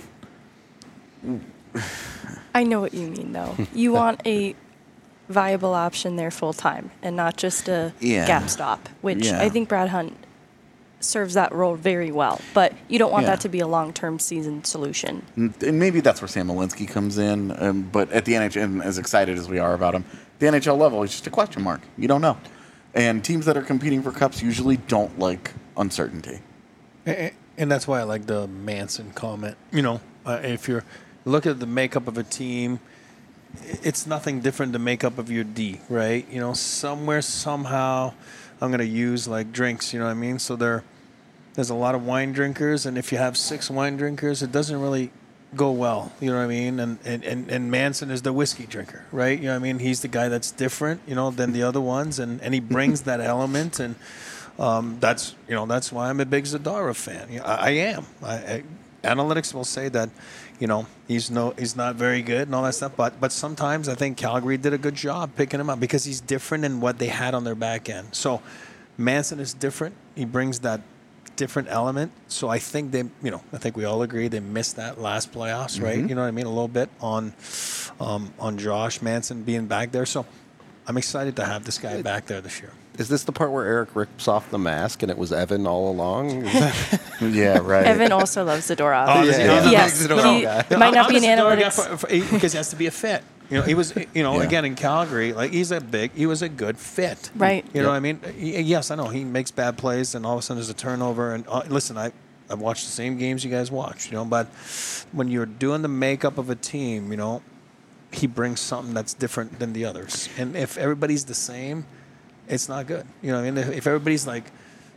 I know what you mean, though. You want a viable option there full time and not just a Yeah. gap stop, which Yeah. I think Brad Hunt serves that role very well. But you don't want Yeah. that to be a long term season solution. And maybe that's where Sam Malinsky comes in. Um, but at the N H L, and as excited as we are about him, the N H L level is just a question mark. You don't know. And teams that are competing for cups usually don't like uncertainty. And and that's why I like the Manson comment. You know, uh, if you're look at the makeup of a team, it's nothing different than the makeup of your D, right? You know, somewhere, somehow, I'm going to use like drinks, you know what I mean? So there, there's a lot of wine drinkers, and if you have six wine drinkers, it doesn't really go well, you know what I mean? And, and, and, and Manson is the whiskey drinker, right? You know what I mean? He's the guy that's different, you know, than the other ones, and, and he brings that element, and um, that's, you know, that's why I'm a big Zadara fan. You know, I, I am. I, I analytics will say that, you know, he's no, he's not very good and all that stuff. But but sometimes I think Calgary did a good job picking him up because he's different in what they had on their back end. So Manson is different. He brings that different element. So I think they, you know, I think we all agree they missed that last playoffs, right? Mm-hmm. You know what I mean? A little bit on, um, on Josh Manson being back there. So I'm excited to have this guy back there this year. Is this the part where Eric rips off the mask and it was Evan all along? Is that- Yeah, right. Evan also loves Zadorov. Oh, does he? Yeah. Oh, Yes, he's a Zadorov he guy. might not I'm be an a Zadorov guy analytics. for- for- because he has to be a fit. You know, he was, you know, Yeah. again in Calgary, like he's a big, he was a good fit. Right. You know Yep. what I mean? Y- Yes, I know he makes bad plays, and all of a sudden there's a turnover. And uh, listen, I, I've watched the same games you guys watch, you know, but when you're doing the makeup of a team, you know, he brings something that's different than the others. And if everybody's the same, it's not good. You know what I mean? If, if everybody's like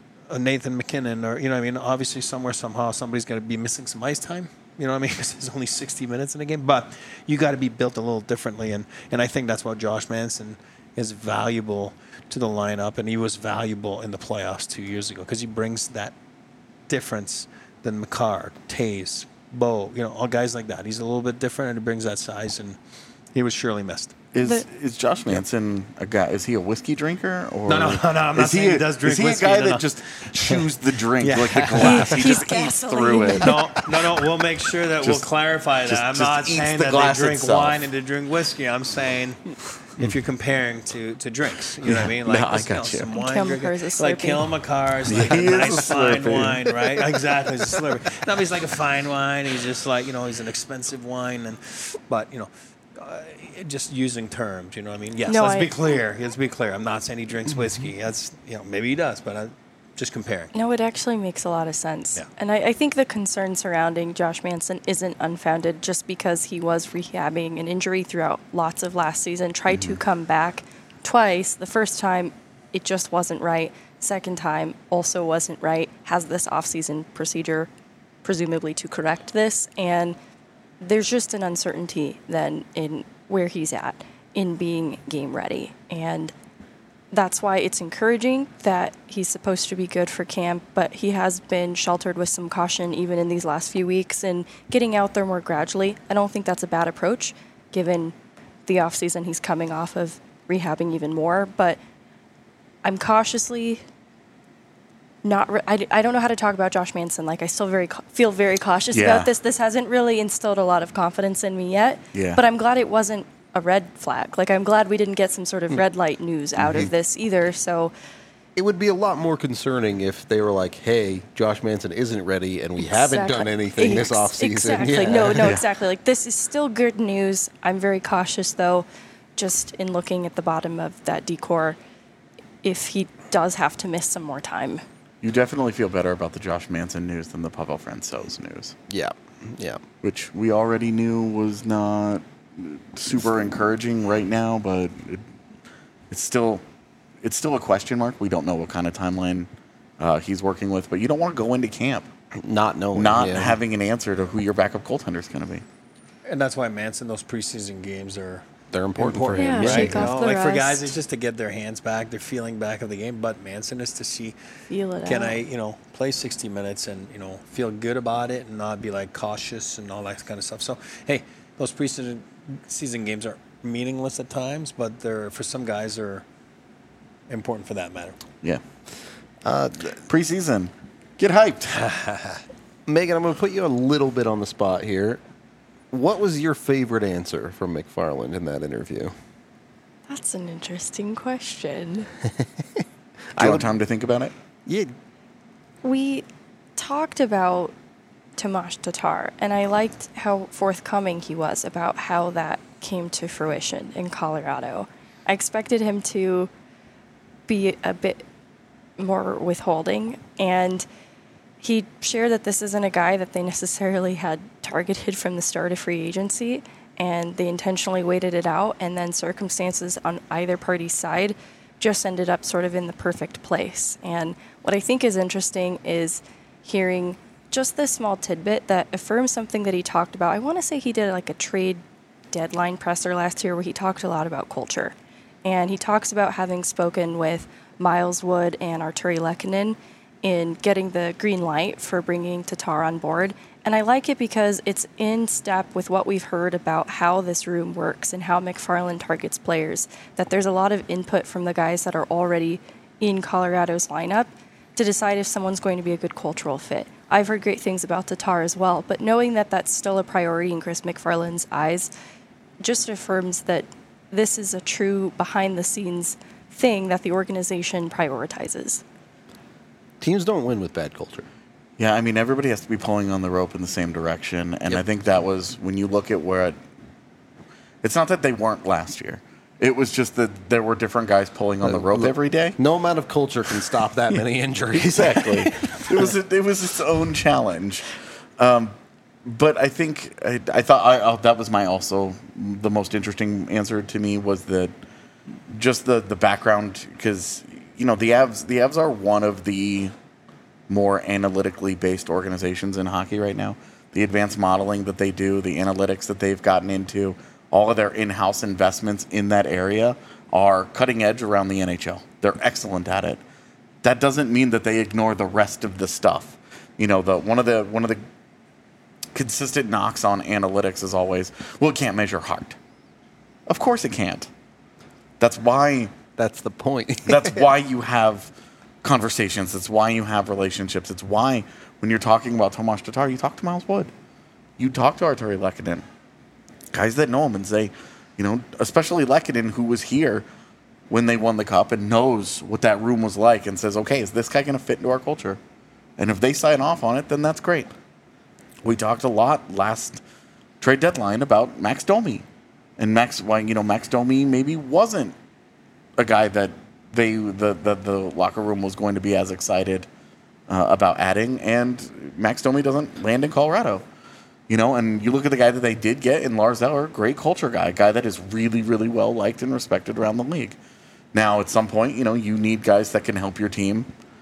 a Nathan McKinnon, or, you know what I mean, obviously somewhere, somehow, somebody's going to be missing some ice time. You know what I mean? Because there's only sixty minutes in a game. But you got to be built a little differently. And, and I think that's why Josh Manson is valuable to the lineup. And he was valuable in the playoffs two years ago because he brings that difference than McCarr, Taze, Bo, you know, all guys like that. He's a little bit different, and he brings that size. And he was surely missed. Is The- is Josh Manson a guy? Is he a whiskey drinker or No, no, no, no, I'm not is he saying a, he does drink Is he whiskey, a guy no, that no. just chews the drink Yeah. like the glass? He, He- just he's eats gasoline. through it. No, no, no. We'll make sure that Just- we'll clarify that. just- I'm just not eats saying the that glass they drink itself. wine and they drink whiskey. I'm saying if you're comparing to, to drinks, you know what I mean? No, I this, got you. Some And wine Kale drinking. McCarr's a like Slurpee. Kale McCar's like He a is a nice fine Slurpee. wine, right? Exactly, he's a Slurpee. No, but he's like a fine wine. He's just like, you know, he's an expensive wine, and but you know. Uh, just using terms, you know what I mean? Yes, No, let's I- be clear. Let's be clear. I'm not saying he drinks whiskey. That's, you know, maybe he does, but I'm just comparing. No, it actually makes a lot of sense. Yeah. And I, I think the concern surrounding Josh Manson isn't unfounded just because he was rehabbing an injury throughout lots of last season, tried to come back twice. The first time, it just wasn't right. Second time, also wasn't right. Has this offseason procedure, presumably to correct this. And there's just an uncertainty then in where he's at in being game ready. And that's why it's encouraging that he's supposed to be good for camp, but he has been sheltered with some caution even in these last few weeks and getting out there more gradually. I don't think that's a bad approach given the offseason he's coming off of rehabbing even more, but I'm cautiously not re- I, I don't know how to talk about Josh Manson. Like, I still very ca- feel very cautious Yeah. about this. This hasn't really instilled a lot of confidence in me yet. Yeah. But I'm glad it wasn't a red flag. Like, I'm glad we didn't get some sort of Hmm. red light news out Mm-hmm. of this either. So It would be a lot more concerning if they were like, hey, Josh Manson isn't ready and we haven't Exactly. done anything this Ex- offseason. Exactly. Yeah. No, no, Yeah. exactly. Like, this is still good news. I'm very cautious, though, just in looking at the bottom of that decor, if he does have to miss some more time. You definitely feel better about the Josh Manson news than the Pavel Francouz news, Yeah. Yeah. which we already knew was not super encouraging right now, but it, it's still it's still a question mark. We don't know what kind of timeline uh, he's working with, but you don't want to go into camp Not knowing. not yeah. having an answer to who your backup goaltender is going to be. And that's why Manson, those preseason games are They're important, for Yeah, him. right? shake You off know, the like for guys, rust. it's just to get their hands back, their feeling back of the game. But Manson is to see, Feel it can out. I, you know, play sixty minutes and you know feel good about it and not be like cautious and all that kind of stuff. So hey, those preseason season games are meaningless at times, but they're for some guys they're important for that matter. Yeah. Uh, preseason, get hyped. Megan, I'm going to put you a little bit on the spot here. What was your favorite answer from McFarland in that interview? That's an interesting question. Do you want time to think about it? Yeah. We talked about Tomas Tatar, and I liked how forthcoming he was about how that came to fruition in Colorado. I expected him to be a bit more withholding, and he shared that this isn't a guy that they necessarily had targeted from the start of free agency, and they intentionally waited it out, and then circumstances on either party's side just ended up sort of in the perfect place. And what I think is interesting is hearing just this small tidbit that affirms something that he talked about. I want to say he did like a trade deadline presser last year where he talked a lot about culture. And he talks about having spoken with Miles Wood and Arturi Lehkonen in getting the green light for bringing Tatar on board. And I like it because it's in step with what we've heard about how this room works and how McFarland targets players, that there's a lot of input from the guys that are already in Colorado's lineup to decide if someone's going to be a good cultural fit. I've heard great things about Tatar as well, but knowing that that's still a priority in Chris McFarland's eyes just affirms that this is a true behind-the-scenes thing that the organization prioritizes. Teams don't win with bad culture. Yeah, I mean, everybody has to be pulling on the rope in the same direction. And Yep. I think that was when you look at where it, it's not that they weren't last year. It was just that there were different guys pulling on the rope look, every day. No amount of culture can stop that many injuries. Exactly. it was a, it was its own challenge. Um, but I think I, I thought I, oh, that was my also the most interesting answer to me was that just the the background, because you know the Avs the Avs are one of the more analytically based organizations in hockey right now. The advanced modeling that they do, the analytics that they've gotten into, all of their in-house investments in that area are cutting edge around the N H L. They're excellent at it. That doesn't mean that they ignore the rest of the stuff. You know, the one of the one of the consistent knocks on analytics is always, well, it can't measure heart. Of course it can't. That's why That's the point. that's why you have conversations. It's why you have relationships. It's why when you're talking about Tomas Tatar, you talk to Miles Wood. You talk to Arturi Lehkonen. Guys that know him and say, you know, especially Lehkonen, who was here when they won the cup and knows what that room was like and says, okay, is this guy going to fit into our culture? And if they sign off on it, then that's great. We talked a lot last trade deadline about Max Domi. And Max, why you know, Max Domi maybe wasn't a guy that they the, the, the locker room was going to be as excited uh, about adding. And Max Domi doesn't land in Colorado. You know, and you look at the guy that they did get in Lars Eller, great culture guy, a guy that is really, really well liked and respected around the league. Now, at some point, you know, you need guys that can help your team.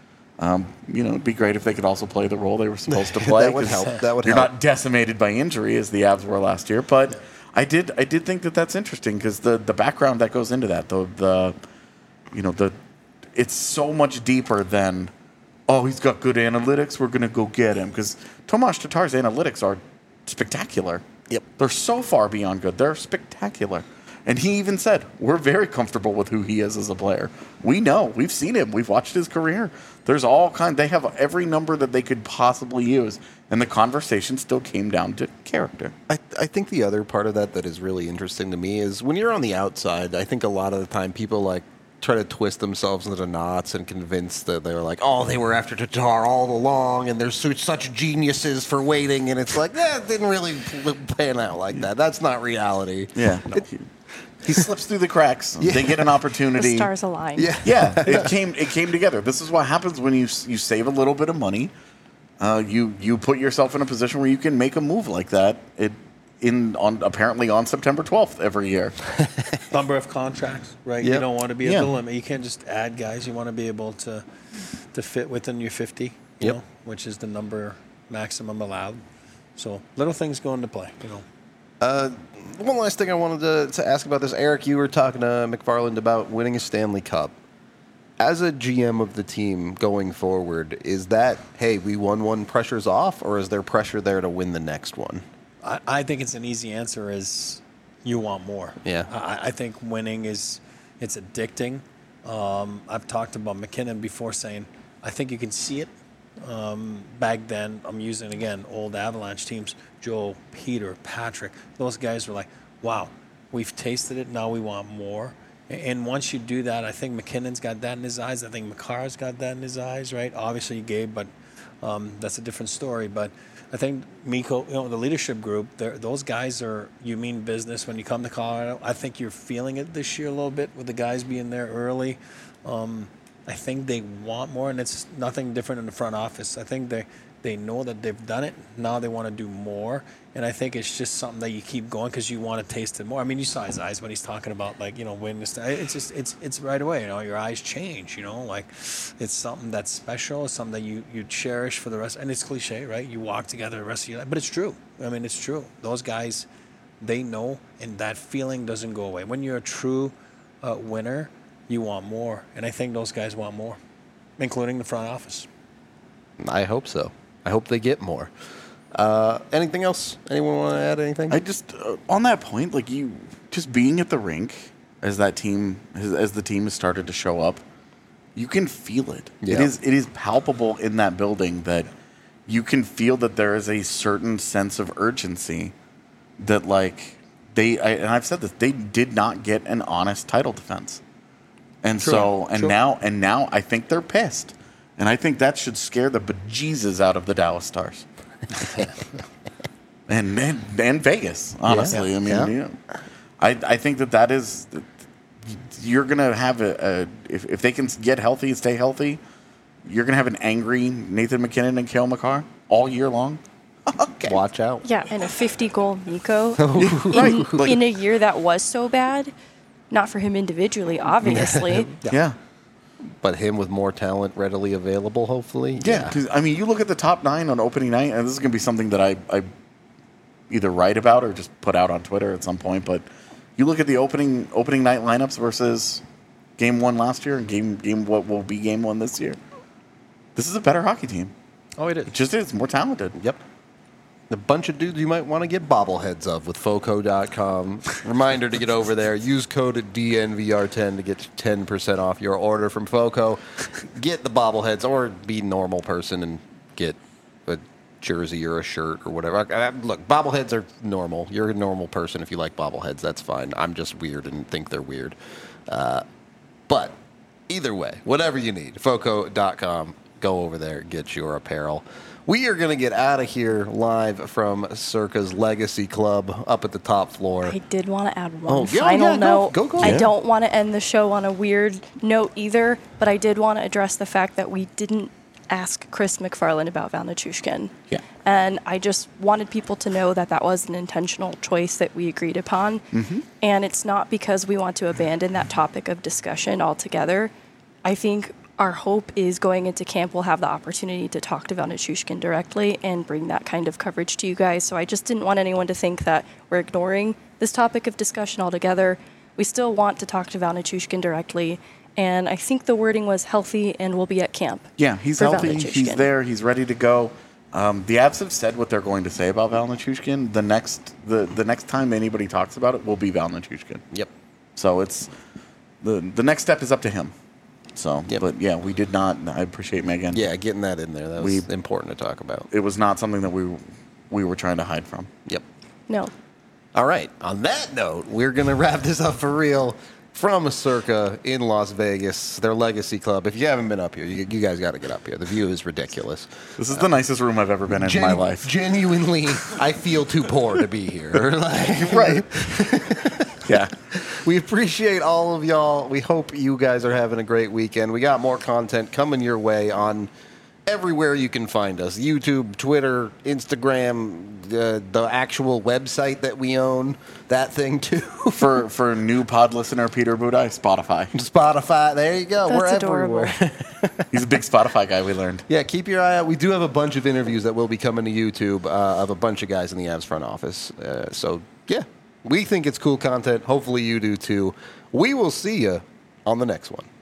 Um, you know, it'd be great if they could also play the role they were supposed to play. That would 'cause help. That would you're help. not decimated by injury as the Avs were last year. But I did, I did think that that's interesting because the the background that goes into that, the the, you know, the, it's so much deeper than, oh, he's got good analytics, we're gonna go get him, because Tomas Tatar's analytics are spectacular. Yep. They're so far beyond good. They're spectacular. And he even said, we're very comfortable with who he is as a player. We know. We've seen him. We've watched his career. There's all kind. They have every number that they could possibly use. And the conversation still came down to character. I, I think the other part of that that is really interesting to me is when you're on the outside, I think a lot of the time people like try to twist themselves into knots and convince that they're like, oh, they were after Tatar all along and they're su- such geniuses for waiting. And it's like, that eh, didn't really pan out like that. That's not reality. Yeah. No, he, he slips through the cracks. Yeah. They get an opportunity. The stars align. Yeah. Yeah. It came it came together. This is what happens when you you save a little bit of money. Uh, you you put yourself in a position where you can make a move like that. It in on apparently on September twelfth every year. Number of contracts, right? Yep. You don't want to be at Yeah. the limit. You can't just add guys. You want to be able to to fit within your fifty, you Yep. know, which is the number maximum allowed. So little things go into play, you know. Uh, one last thing I wanted to, to ask about this. Eric, you were talking to McFarland about winning a Stanley Cup. As a G M of the team going forward, is that, hey, we won one, pressure's off, or is there pressure there to win the next one? I, I think it's an easy answer is you want more. Yeah. I, I think winning is it's addicting. Um, I've talked about McKinnon before saying I think you can see it. Um, back then, I'm using, again, old Avalanche teams, Joe, Peter, Patrick. Those guys were like, wow, we've tasted it. Now we want more. And once you do that, I think McKinnon's got that in his eyes. I think Makar's got that in his eyes, right? Obviously, Gabe, but um, that's a different story. But I think Mikko, you know, the leadership group, those guys are, you mean business when you come to Colorado. I think you're feeling it this year a little bit with the guys being there early. Um, I think they want more, and it's nothing different in the front office. I think they, they know that they've done it. Now they want to do more, and I think it's just something that you keep going because you want to taste it more. I mean, you saw his eyes when he's talking about, like, you know, winning this. It's just it's it's right away. You know, your eyes change. You know, like it's something that's special. It's something that you, you cherish for the rest. And it's cliche, right? You walk together the rest of your life, but it's true. I mean, it's true. Those guys, they know, and that feeling doesn't go away. When you're a true uh, winner, you want more, and I think those guys want more, including the front office. I hope so. I hope they get more. Uh, anything else? Anyone want to add anything? I just uh, on that point, like you, just being at the rink as that team, as, as the team has started to show up, you can feel it. Yeah. It is it is palpable in that building that you can feel that there is a certain sense of urgency that like they I, and I've said this, they did not get an honest title defense. And True. so and True. now and now I think they're pissed. And I think that should scare the bejesus out of the Dallas Stars. and, and and Vegas, honestly. Yeah. I mean, Yeah. you know, I I think that that is you're gonna have a, a if if they can get healthy and stay healthy, you're gonna have an angry Nathan McKinnon and Cale Makar all year long. Okay. Watch out. Yeah, and a fifty-goal Nico Right. in, Like- in a year that was so bad. Not for him individually, obviously. Yeah. But him with more talent readily available, hopefully. Yeah, because I mean, you look at the top nine on opening night, and this is going to be something that I, I either write about or just put out on Twitter at some point. But you look at the opening opening night lineups versus game one last year and game game what will be game one this year. This is a better hockey team. Oh, it is. It just is more talented. Yep. A bunch of dudes you might want to get bobbleheads of with Foco dot com. Reminder to get over there. Use code D N V R ten to get ten percent off your order from Foco. Get the bobbleheads or be a normal person and get a jersey or a shirt or whatever. Uh, Look, bobbleheads are normal. You're a normal person if you like bobbleheads. That's fine. I'm just weird and think they're weird. Uh, but either way, whatever you need, Foco dot com. Go over there, get your apparel. We are going to get out of here live from Circa's Legacy Club up at the top floor. I did want to add one Oh, yeah, final yeah, go- note. go, go. I Yeah. don't want to end the show on a weird note either, but I did want to address the fact that we didn't ask Chris McFarland about Val Nichushkin. Yeah. And I just wanted people to know that that was an intentional choice that we agreed upon. Mm-hmm. And it's not because we want to abandon that topic of discussion altogether. I think our hope is going into camp we'll have the opportunity to talk to Val Nichushkin directly and bring that kind of coverage to you guys. So I just didn't want anyone to think that we're ignoring this topic of discussion altogether. We still want to talk to Val Nichushkin directly. And I think the wording was healthy and will be at camp. Yeah, he's for Val healthy. He's Nichushkin. there. He's ready to go. Um, the Avs have said what they're going to say about Val Nichushkin. The next the, the next time anybody talks about it will be Val Nichushkin. Yep. So it's the the next step is up to him. So, Yep. but yeah, we did not. I appreciate Megan. Yeah, getting that in there. That was We- important to talk about. It was not something that we we were trying to hide from. Yep. No. All right. On that note, we're going to wrap this up for real from Circa in Las Vegas, their Legacy Club. If you haven't been up here, you, you guys got to get up here. The view is ridiculous. This is the nicest room I've ever been in in my Genu- life. Genuinely, I feel too poor to be here. Like, Right. Yeah. we appreciate all of y'all. We hope you guys are having a great weekend. We got more content coming your way on everywhere you can find us. YouTube, Twitter, Instagram, the, the actual website that we own, that thing too. For for new pod listener Peter Budai, Spotify. Spotify, there you go. That's We're adorable. everywhere. He's a big Spotify guy, we learned. Yeah, keep your eye out. We do have a bunch of interviews that will be coming to YouTube uh, of a bunch of guys in the Avs front office. Uh, so, yeah, we think it's cool content. Hopefully you do too. We will see you on the next one.